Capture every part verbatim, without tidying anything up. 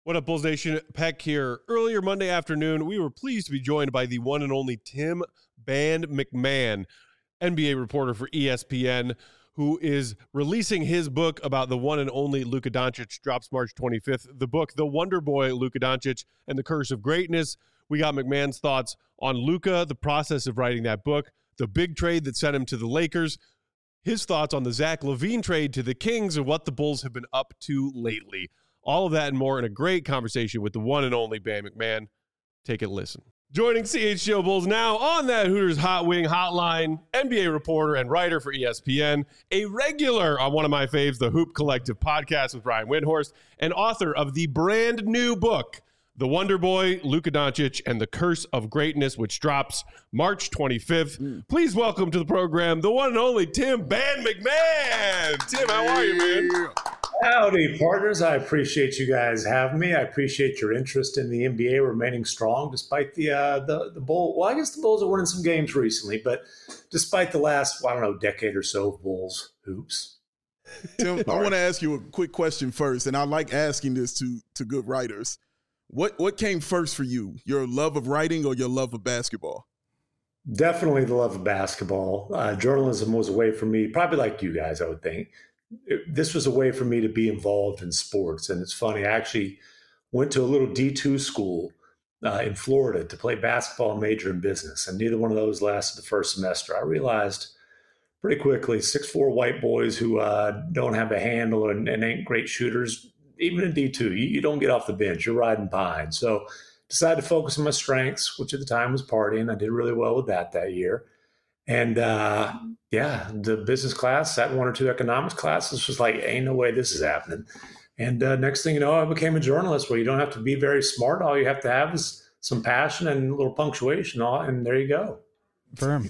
What up, Bulls Nation? Peck here. Earlier Monday afternoon, we were pleased to be joined by the one and only Tim Band McMahon, N B A reporter for E S P N, who is releasing his book about the one and only Luka Doncic. Drops March twenty-fifth. The book, The Wonder Boy, Luka Doncic and the Curse of Greatness. We got McMahon's thoughts on Luka, the process of writing that book, the big trade that sent him to the Lakers, his thoughts on the Zach LaVine trade to the Kings, and what the Bulls have been up to lately. All of that and more in a great conversation with the one and only Band McMahon. Take a listen. Joining C H G O Bulls now on that Hooters Hot Wing Hotline, N B A reporter and writer for E S P N, a regular on one of my faves, the Hoop Collective podcast with Brian Windhorst, and author of the brand new book, The Wonder Boy, Luka Doncic, and the Curse of Greatness, which drops March twenty-fifth. Mm. Please welcome to the program the one and only Tim Band McMahon. Tim, how are you, man? Howdy, partners. I appreciate you guys having me. I appreciate your interest in the N B A remaining strong despite the uh, the the Bull. Well, I guess the Bulls are winning some games recently, but despite the last, well, I don't know, decade or so of Bulls hoops. Tim, I want to ask you a quick question first, and I like asking this to to good writers. What what came first for you? Your love of writing or your love of basketball? Definitely the love of basketball. Uh, journalism was a way for me, probably like you guys, I would think. It, this was a way for me to be involved in sports. And it's funny, I actually went to a little D two school uh, in Florida to play basketball and major in business. And neither one of those lasted the first semester. I realized pretty quickly, six foot four white boys who uh, don't have a handle and, and ain't great shooters, even in D two, you, you don't get off the bench. You're riding pine. So decided to focus on my strengths, which at the time was partying. I did really well with that that year. And uh, yeah, the business class, sat in one or two economics classes, was like, ain't no way this is happening. And uh, next thing you know, I became a journalist where you don't have to be very smart. All you have to have is some passion and a little punctuation. All, and there you go. Confirm.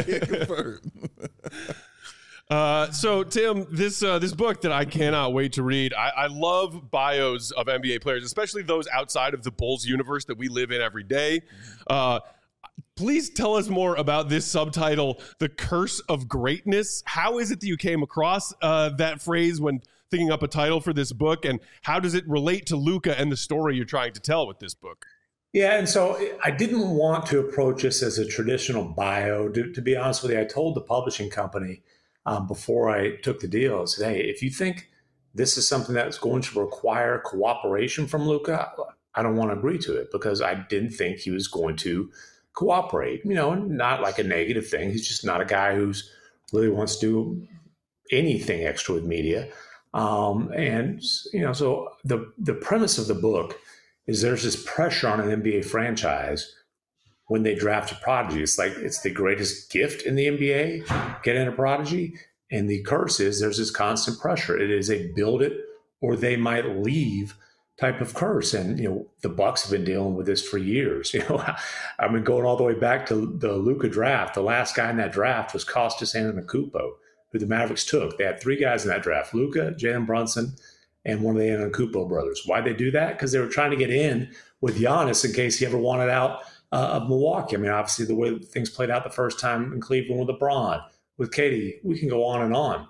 Uh, so, Tim, this uh, this book that I cannot wait to read, I, I love bios of N B A players, especially those outside of the Bulls universe that we live in every day. Uh, please tell us more about this subtitle, The Curse of Greatness. How is it that you came across uh, that phrase when thinking up a title for this book, and how does it relate to Luka and the story you're trying to tell with this book? Yeah, and so I didn't want to approach this as a traditional bio. To, to be honest with you, I told the publishing company Um, before I took the deal, I said, hey, if you think this is something that's going to require cooperation from Luka, I don't want to agree to it, because I didn't think he was going to cooperate. You know, not like a negative thing. He's just not a guy who's really wants to do anything extra with media. Um, and, you know, so the, the premise of the book is there's this pressure on an N B A franchise when they draft a prodigy. It's like it's the greatest gift in the N B A, getting a prodigy. And the curse is there's this constant pressure. It is a build it or they might leave type of curse. And, you know, the Bucks have been dealing with this for years. You know, I've been going all the way back to the Luka draft. The last guy in that draft was Kostas Antetokounmpo, who the Mavericks took. They had three guys in that draft, Luka, Jalen Brunson, and one of the Antetokounmpo brothers. Why'd they do that? Because they were trying to get in with Giannis in case he ever wanted out Uh, of Milwaukee. I mean, obviously, the way things played out the first time in Cleveland with LeBron, with Katie, we can go on and on.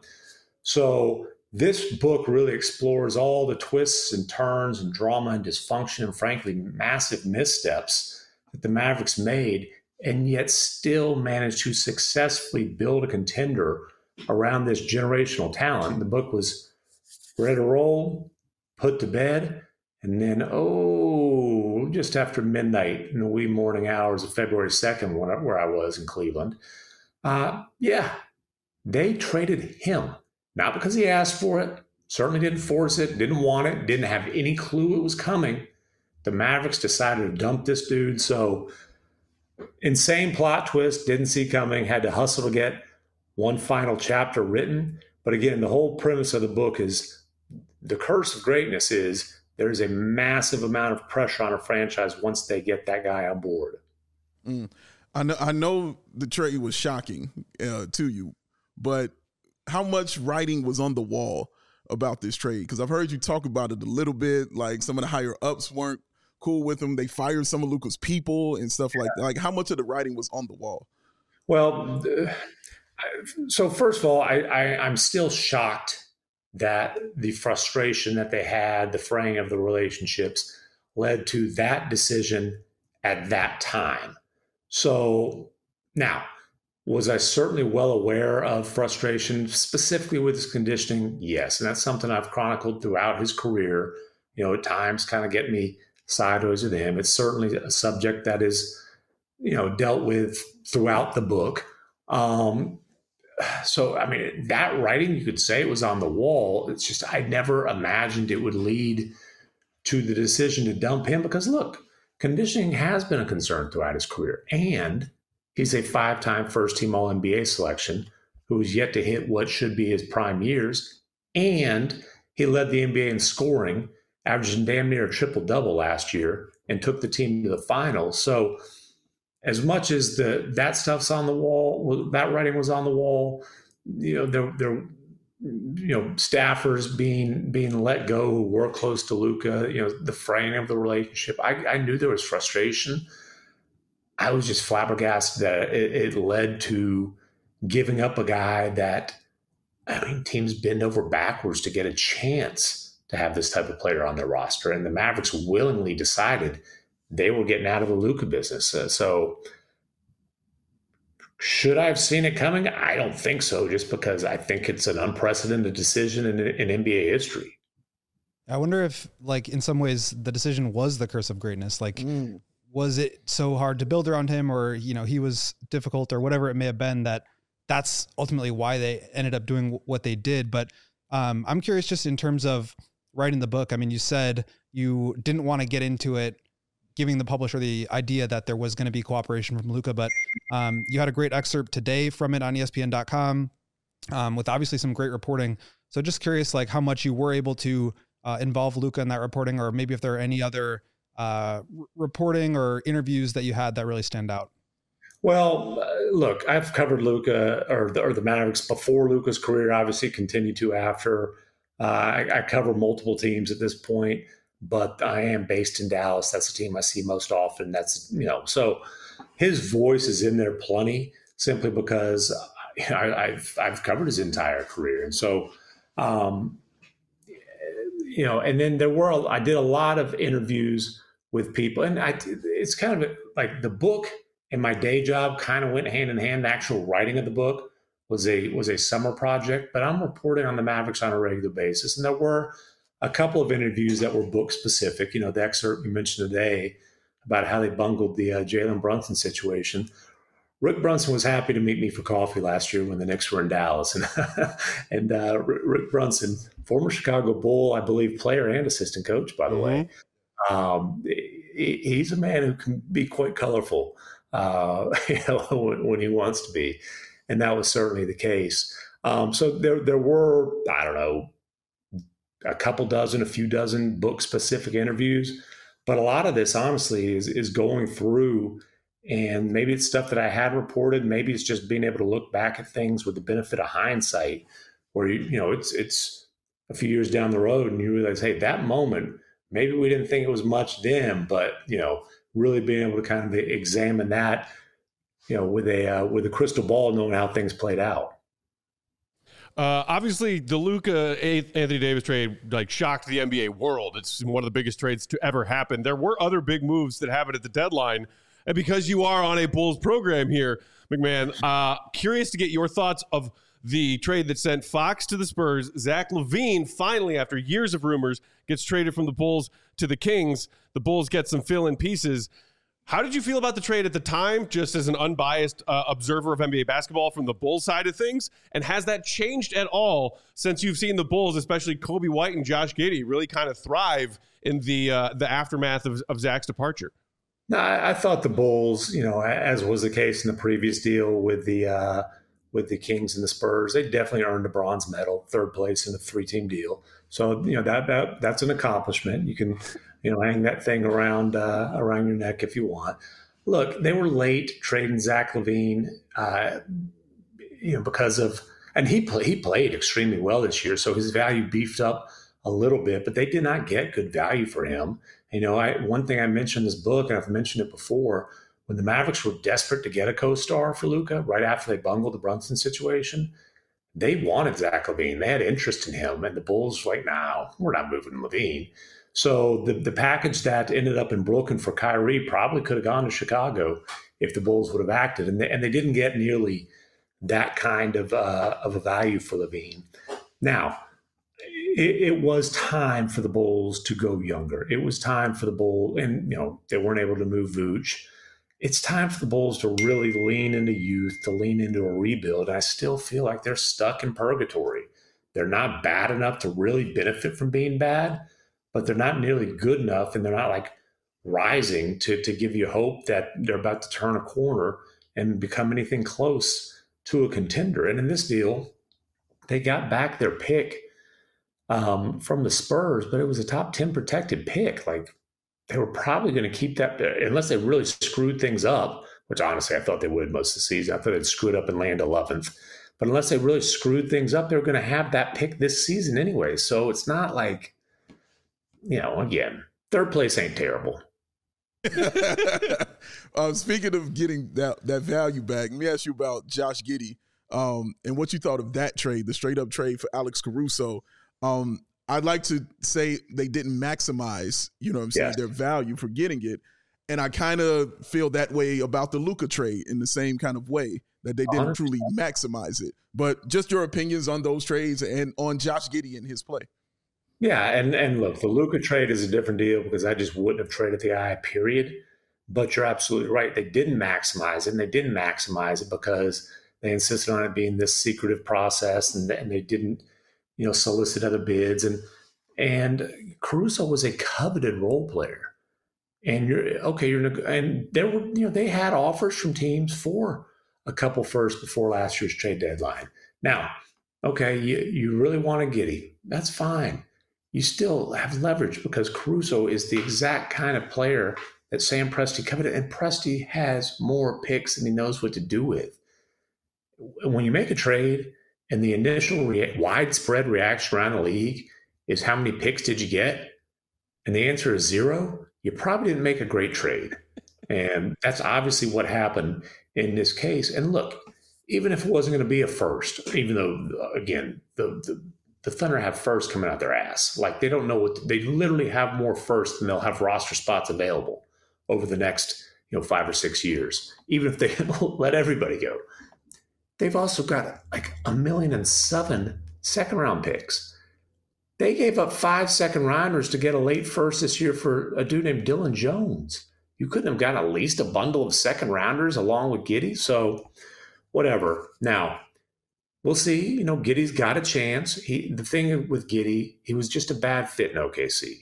So this book really explores all the twists and turns and drama and dysfunction and, frankly, massive missteps that the Mavericks made, and yet still managed to successfully build a contender around this generational talent. The book was ready to roll, put to bed, and then, oh, just after midnight in the wee morning hours of February second, where I was in Cleveland, uh, yeah, they traded him. Not because he asked for it, certainly didn't force it, didn't want it, didn't have any clue it was coming. The Mavericks decided to dump this dude. So insane plot twist, didn't see coming, had to hustle to get one final chapter written. But again, the whole premise of the book is the curse of greatness is there's a massive amount of pressure on a franchise once they get that guy on board. Mm. I know, I know the trade was shocking uh, to you, but how much writing was on the wall about this trade? Because I've heard you talk about it a little bit, like some of the higher ups weren't cool with him. They fired some of Luka's people and stuff like that. Like, how much of the writing was on the wall? Well, so first of all, I, I, I'm still shocked that the frustration that they had, the fraying of the relationships, led to that decision at that time. So now, was I certainly well aware of frustration, specifically with his conditioning? Yes. And that's something I've chronicled throughout his career. You know, at times kind of get me sideways with him. It's certainly a subject that is, you know, dealt with throughout the book. Um, so, I mean, that writing, you could say it was on the wall. It's just, I never imagined it would lead to the decision to dump him because, look, conditioning has been a concern throughout his career. And he's a five-time first-team All N B A selection who is yet to hit what should be his prime years. And he led the N B A in scoring, averaging damn near a triple-double last year, and took the team to the finals. So as much as the that stuff's on the wall, that writing was on the wall, you know, there, there, you know, staffers being being let go who were close to Luka, you know, the fraying of the relationship. I, I knew there was frustration. I was just flabbergasted that it, it led to giving up a guy that, I mean, teams bend over backwards to get a chance to have this type of player on their roster. And the Mavericks willingly decided they were getting out of the Luka business. Uh, so should I have seen it coming? I don't think so, just because I think it's an unprecedented decision in, in N B A history. I wonder if, like, in some ways the decision was the curse of greatness. Like, mm. was it so hard to build around him, or, you know, he was difficult or whatever it may have been, that that's ultimately why they ended up doing what they did. But um, I'm curious, just in terms of writing the book. I mean, you said you didn't want to get into it giving the publisher the idea that there was going to be cooperation from Luka, but um, you had a great excerpt today from it on E S P N dot com um, with obviously some great reporting. So just curious, like, how much you were able to uh, involve Luka in that reporting, or maybe if there are any other uh, r- reporting or interviews that you had that really stand out. Well, uh, look, I've covered Luka or the, or the Mavericks before Luka's career, obviously continue to after. Uh, I, I cover multiple teams at this point, but I am based in Dallas. That's the team I see most often. That's, you know, so his voice is in there plenty, simply because I, I've I've covered his entire career. And so, um, you know, and then there were, a, I did a lot of interviews with people, and I, it's kind of like the book and my day job kind of went hand in hand. The actual writing of the book was a was a summer project, but I'm reporting on the Mavericks on a regular basis. And there were a couple of interviews that were book specific. You know, the excerpt you mentioned today about how they bungled the uh, Jalen Brunson situation. Rick Brunson was happy to meet me for coffee last year when the Knicks were in Dallas. And, and uh, Rick Brunson, former Chicago Bull, I believe, player and assistant coach, by the mm-hmm. way. Um, he, he's a man who can be quite colorful uh, you know, when, when he wants to be. And that was certainly the case. Um, so there, there were, I don't know, a couple dozen, a few dozen book-specific interviews. But a lot of this, honestly, is is going through, and maybe it's stuff that I had reported. Maybe it's just being able to look back at things with the benefit of hindsight, where, you, you know, it's it's a few years down the road and you realize, hey, that moment, maybe we didn't think it was much then, but, you know, really being able to kind of examine that, you know, with a uh, with a crystal ball, knowing how things played out. Uh, obviously, the Luka Anthony Davis trade like shocked the N B A world. It's one of the biggest trades to ever happen. There were other big moves that happened at the deadline, and because you are on a Bulls program here, McMahon, uh, curious to get your thoughts of the trade that sent Fox to the Spurs. Zach LaVine finally, after years of rumors, gets traded from the Bulls to the Kings. The Bulls get some fill-in pieces. How did you feel about the trade at the time, just as an unbiased uh, observer of N B A basketball from the Bulls side of things? And has that changed at all since you've seen the Bulls, especially Kobe White and Josh Giddey, really kind of thrive in the uh, the aftermath of, of Zach's departure? No, I, I thought the Bulls, you know, as was the case in the previous deal with the uh, with the Kings and the Spurs, they definitely earned a bronze medal, third place in a three-team deal. So, you know, that that that's an accomplishment. You can, you know, hang that thing around uh, around your neck if you want. Look, they were late trading Zach LaVine, uh, you know, because of, and he play, he played extremely well this year, so his value beefed up a little bit. But they did not get good value for him. You know, I one thing I mentioned in this book, and I've mentioned it before, when the Mavericks were desperate to get a co-star for Luka right after they bungled the Brunson situation, they wanted Zach LaVine. They had interest in him, and the Bulls were like, no, we're not moving LaVine. So the, the package that ended up in Brooklyn for Kyrie probably could have gone to Chicago if the Bulls would have acted. And they, and they didn't get nearly that kind of, uh, of a value for LaVine. Now, it, it was time for the Bulls to go younger. It was time for the Bulls, and, you know, they weren't able to move Vooch. It's time for the Bulls to really lean into youth, to lean into a rebuild. I still feel like they're stuck in purgatory. They're not bad enough to really benefit from being bad, but they're not nearly good enough, and they're not like rising to, to give you hope that they're about to turn a corner and become anything close to a contender. And in this deal, they got back their pick um, from the Spurs, but it was a top ten protected pick. Like, they were probably going to keep that unless they really screwed things up, which honestly I thought they would most of the season. I thought they'd screw it up and land eleventh. But unless they really screwed things up, they were going to have that pick this season anyway. So it's not like, you know, again, third place ain't terrible. uh, speaking of getting that, that value back, let me ask you about Josh Giddey um, and what you thought of that trade, the straight-up trade for Alex Caruso. Um, I'd like to say they didn't maximize, you know what I'm saying, yeah. their value for getting it. And I kind of feel that way about the Luka trade in the same kind of way, that they didn't truly maximize it. But just your opinions on those trades and on Josh Giddey and his play. Yeah, and, and look, the Luka trade is a different deal because I just wouldn't have traded the guy, period. But you're absolutely right. They didn't maximize it, and they didn't maximize it because they insisted on it being this secretive process, and, and they didn't, you know, solicit other bids. And and Caruso was a coveted role player. And you're okay, you're and there were, you know, they had offers from teams for a couple first before last year's trade deadline. Now, okay, you, you really want to Giddey. That's fine. You still have leverage because Caruso is the exact kind of player that Sam Presti coveted, and Presti has more picks than he knows what to do with. When you make a trade and the initial rea- widespread reaction around the league is how many picks did you get? And the answer is zero. You probably didn't make a great trade. And that's obviously what happened in this case. And look, even if it wasn't going to be a first, even though, again, the, the, the Thunder have first coming out their ass. Like, they don't know what – they literally have more first than they'll have roster spots available over the next, you know, five or six years, even if they let everybody go. They've also got like a million and seven second-round picks. They gave up five second-rounders to get a late first this year for a dude named Dylan Jones. You couldn't have gotten at least a bundle of second-rounders along with Giddey. So whatever. Now, we'll see. You know, Giddey's got a chance. He, the thing with Giddey, he was just a bad fit in O K C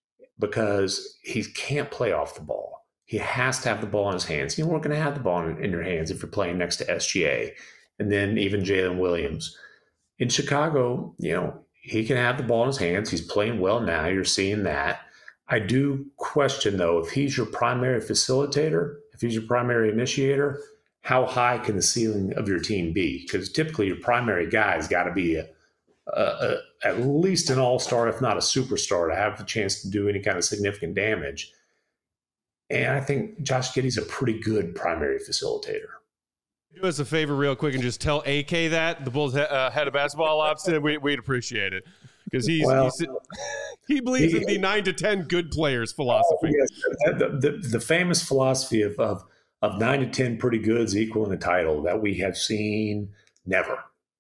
because he can't play off the ball. He has to have the ball in his hands. You weren't going to have the ball in, in your hands if you're playing next to S G A and then even Jalen Williams. In Chicago, you know, he can have the ball in his hands. He's playing well now. You're seeing that. I do question, though, if he's your primary facilitator, if he's your primary initiator, how high can the ceiling of your team be? Because typically your primary guy has got to be a, a, a, at least an all-star, if not a superstar, to have the chance to do any kind of significant damage. And I think Josh Giddey's a pretty good primary facilitator. Do us a favor real quick and just tell A K that, the Bulls uh, head of basketball ops, we, we'd appreciate it. Because he's, well, he's he believes he, in the nine to ten good players philosophy. Oh, yes. the, the, the famous philosophy of, of of nine to ten pretty goods equaling a title that we have seen never.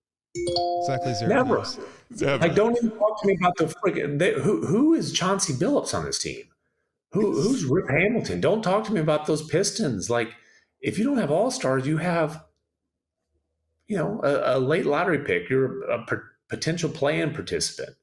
Exactly zero. Never. never. Like, don't even talk to me about the freaking they, who who is Chauncey Billups on this team? Who who's Rip Hamilton? Don't talk to me about those Pistons. Like, if you don't have all-stars, you have, you know, a, a late lottery pick. You're a p- potential play-in participant.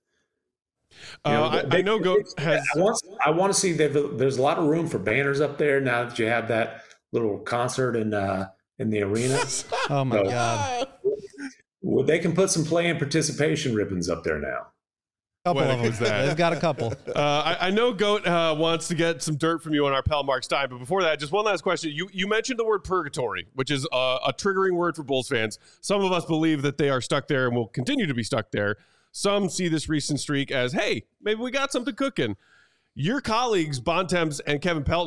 You know, uh, they, I, I know Goat has. I want, I want to see that there's a lot of room for banners up there now that you have that little concert in uh, in the arena. Oh my so, God! Well, they can put some play-in participation ribbons up there now. Couple what of them. That? They've got a couple. Uh, I, I know Goat uh, wants to get some dirt from you on our pal Mark Stein, but before that, just one last question. You you mentioned the word purgatory, which is a, a triggering word for Bulls fans. Some of us believe that they are stuck there and will continue to be stuck there. Some see this recent streak as, hey, maybe we got something cooking. Your colleagues, Bontemps and Kevin Pelton,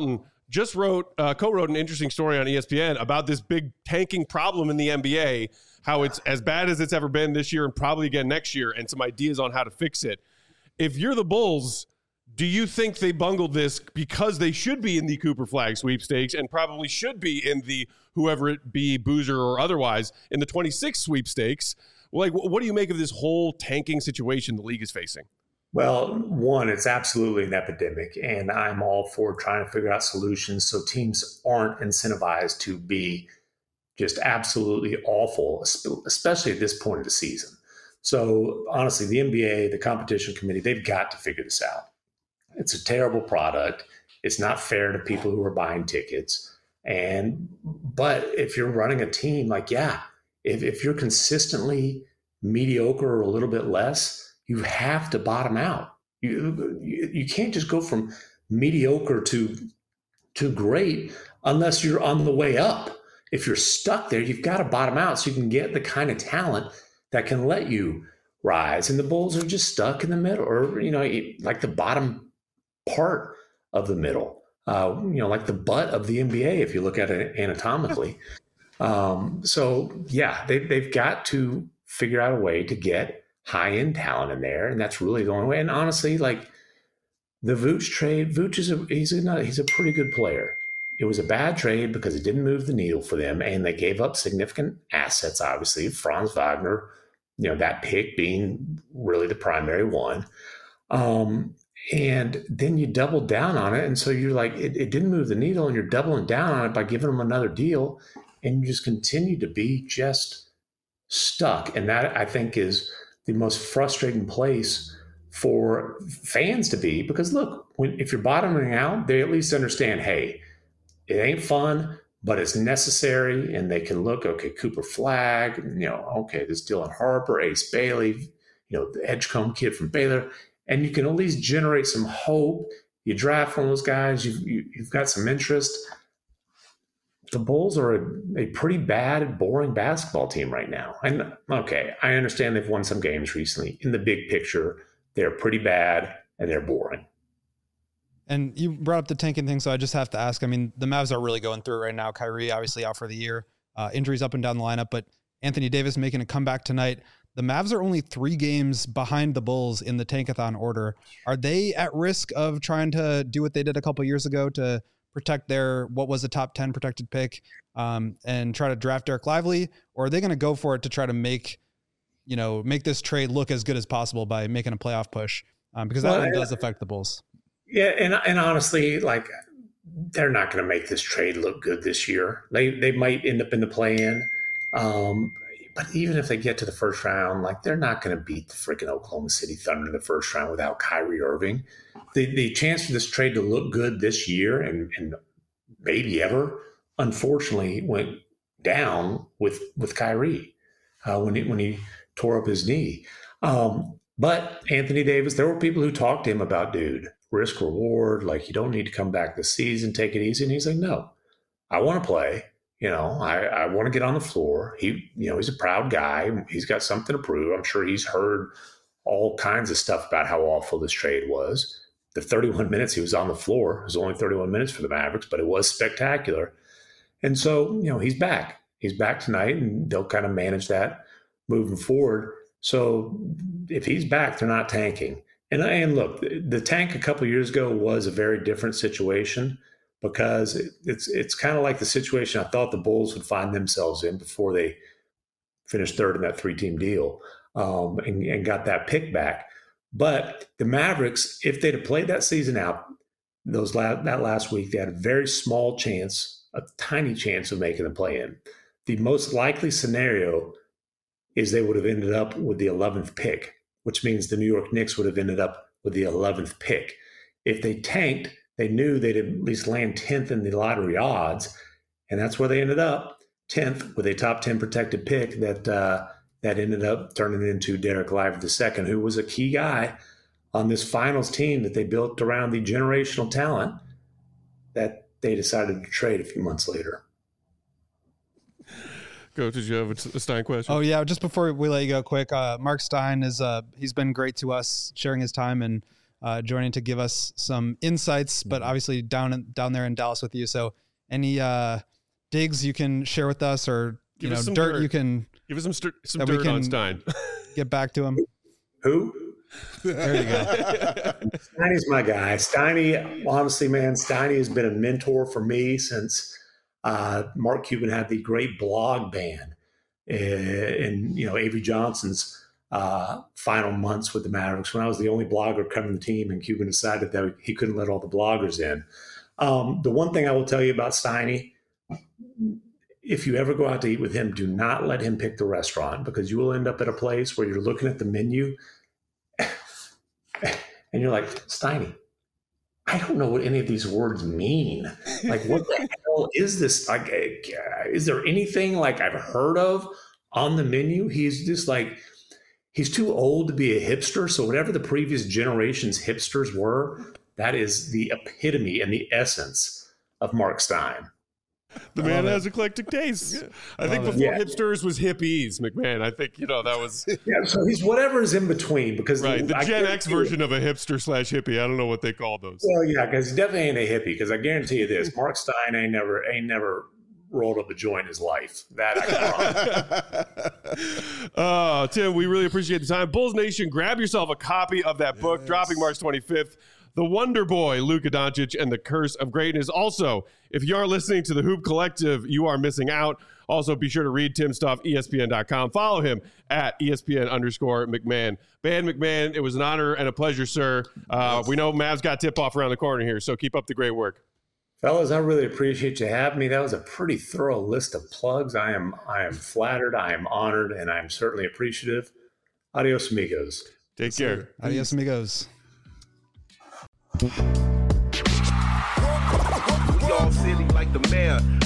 just wrote, uh, co-wrote an interesting story on E S P N about this big tanking problem in the N B A, how it's as bad as it's ever been this year and probably again next year, and some ideas on how to fix it. If you're the Bulls, do you think they bungled this because they should be in the Cooper Flag sweepstakes and probably should be in the, whoever it be, Boozer or otherwise, in the twenty-six sweepstakes? Like, what do you make of this whole tanking situation the league is facing? Well, one, it's absolutely an epidemic, and I'm all for trying to figure out solutions so teams aren't incentivized to be just absolutely awful, especially at this point of the season. So honestly, the N B A, the competition committee, they've got to figure this out. It's a terrible product. It's not fair to people who are buying tickets. And but if you're running a team, like, yeah, if, if you're consistently mediocre or a little bit less, you have to bottom out. You, you you can't just go from mediocre to to great unless you're on the way up. If you're stuck there, you've got to bottom out so you can get the kind of talent that can let you rise. And the Bulls are just stuck in the middle, or, you know, like the bottom part of the middle, uh, you know, like the butt of the N B A, if you look at it anatomically. Um, so, yeah, they, they've got to figure out a way to get high-end talent in there, and that's really the only way. And honestly, like the Vooch trade, Vooch is a, he's a, he's a pretty good player. It was a bad trade because it didn't move the needle for them, and they gave up significant assets, obviously. Franz Wagner, you know, that pick being really the primary one. Um, and then you doubled down on it. And so you're like, it, it didn't move the needle, and you're doubling down on it by giving them another deal. And you just continue to be just stuck. And that, I think, is the most frustrating place for fans to be. Because look, when, if you're bottoming out, they at least understand, hey, it ain't fun, but it's necessary. And they can look, okay, Cooper Flag, you know, okay, this Dylan Harper, Ace Bailey, you know, the Edgecombe kid from Baylor. And you can at least generate some hope. You draft one of those guys, you've, you, you've got some interest. The Bulls are a, a pretty bad, boring basketball team right now. And okay, I understand they've won some games recently. In the big picture, they're pretty bad and they're boring. And you brought up the tanking thing, so I just have to ask. I mean, the Mavs are really going through it right now. Kyrie obviously out for the year, uh, injuries up and down the lineup, but Anthony Davis making a comeback tonight. The Mavs are only three games behind the Bulls in the tankathon order. Are they at risk of trying to do what they did a couple years ago to protect their, what was a top ten protected pick, um, and try to draft Derek Lively? Or are they going to go for it to try to make, you know, make this trade look as good as possible by making a playoff push? Um, because that well, one does affect the Bulls. Yeah. And, and honestly, like, they're not going to make this trade look good this year. They, they might end up in the play-in. Um, But even if they get to the first round, like, they're not going to beat the freaking Oklahoma City Thunder in the first round without Kyrie Irving. The the chance for this trade to look good this year and, and maybe ever, unfortunately, went down with with Kyrie uh, when he when he tore up his knee. Um, but Anthony Davis, there were people who talked to him about, dude, risk reward, like, you don't need to come back this season, take it easy. And he's like, no, I want to play. You know, I, I want to get on the floor. He, you know, he's a proud guy. He's got something to prove. I'm sure he's heard all kinds of stuff about how awful this trade was. The thirty-one minutes he was on the floor, it was only thirty-one minutes for the Mavericks, but it was spectacular. And so, you know, he's back. He's back tonight, and they'll kind of manage that moving forward. So if he's back, they're not tanking. And, and look, the tank a couple of years ago was a very different situation, because it's it's kind of like the situation I thought the Bulls would find themselves in before they finished third in that three-team deal, um, and, and got that pick back. But the Mavericks, if they'd have played that season out, those la- that last week, they had a very small chance, a tiny chance of making the play-in. The most likely scenario is they would have ended up with the eleventh pick, which means the New York Knicks would have ended up with the eleventh pick. If they tanked, they knew they'd at least land tenth in the lottery odds, and that's where they ended up, tenth, with a top ten protected pick that uh, that ended up turning into Derek Lively the second, who was a key guy on this finals team that they built around the generational talent that they decided to trade a few months later. Go, did you have a Stein question? Oh, yeah, just before we let you go quick, uh, Mark Stein, is uh, he's been great to us, sharing his time and uh, joining to give us some insights, but obviously down in, down there in Dallas with you. So any uh, digs you can share with us, or Give you know, us some dirt, dirt. you can Give us some st- some that we dirt on can- Stein. get back to him. Who? There you go. Steiny's my guy. Steiny, honestly, man, Steiny has been a mentor for me since uh, Mark Cuban had the great blog ban in, in you know Avery Johnson's uh, final months with the Mavericks, when I was the only blogger covering the team, and Cuban decided that he couldn't let all the bloggers in. Um, the one thing I will tell you about Steiny, if you ever go out to eat with him, do not let him pick the restaurant, because you will end up at a place where you're looking at the menu and you're like, Steiny, I don't know what any of these words mean. Like, what the hell is this? Like, uh, is there anything like I've heard of on the menu? He's just like, he's too old to be a hipster. So whatever the previous generation's hipsters were, that is the epitome and the essence of Mark Stein. The man has eclectic tastes. I think Love before it. hipsters was hippies, McMahon. I think, you know, that was Yeah, so he's whatever is in between, because right. The I Gen guarantee X you- version of a hipster slash hippie. I don't know what they call those. Well, yeah, because he definitely ain't a hippie. Because I guarantee you this: Mark Stein ain't never ain't never rolled up a joint in his life. That I can promise. Oh, Tim, we really appreciate the time. Bulls Nation, grab yourself a copy of that book, Yes. dropping March twenty-fifth. The Wonder Boy, Luka Doncic, and the Curse of Greatness. Also, if you aren't listening to the Hoop Collective, you are missing out. Also, be sure to read Tim's stuff, E S P N dot com. Follow him at E S P N underscore McMahon. Band McMahon, it was an honor and a pleasure, sir. Uh, we know Mavs got tip-off around the corner here, so keep up the great work. Fellas, I really appreciate you having me. That was a pretty thorough list of plugs. I am I am flattered, I am honored, and I'm certainly appreciative. Adios, amigos. Take care. Adios, amigos. We all silly like the mayor.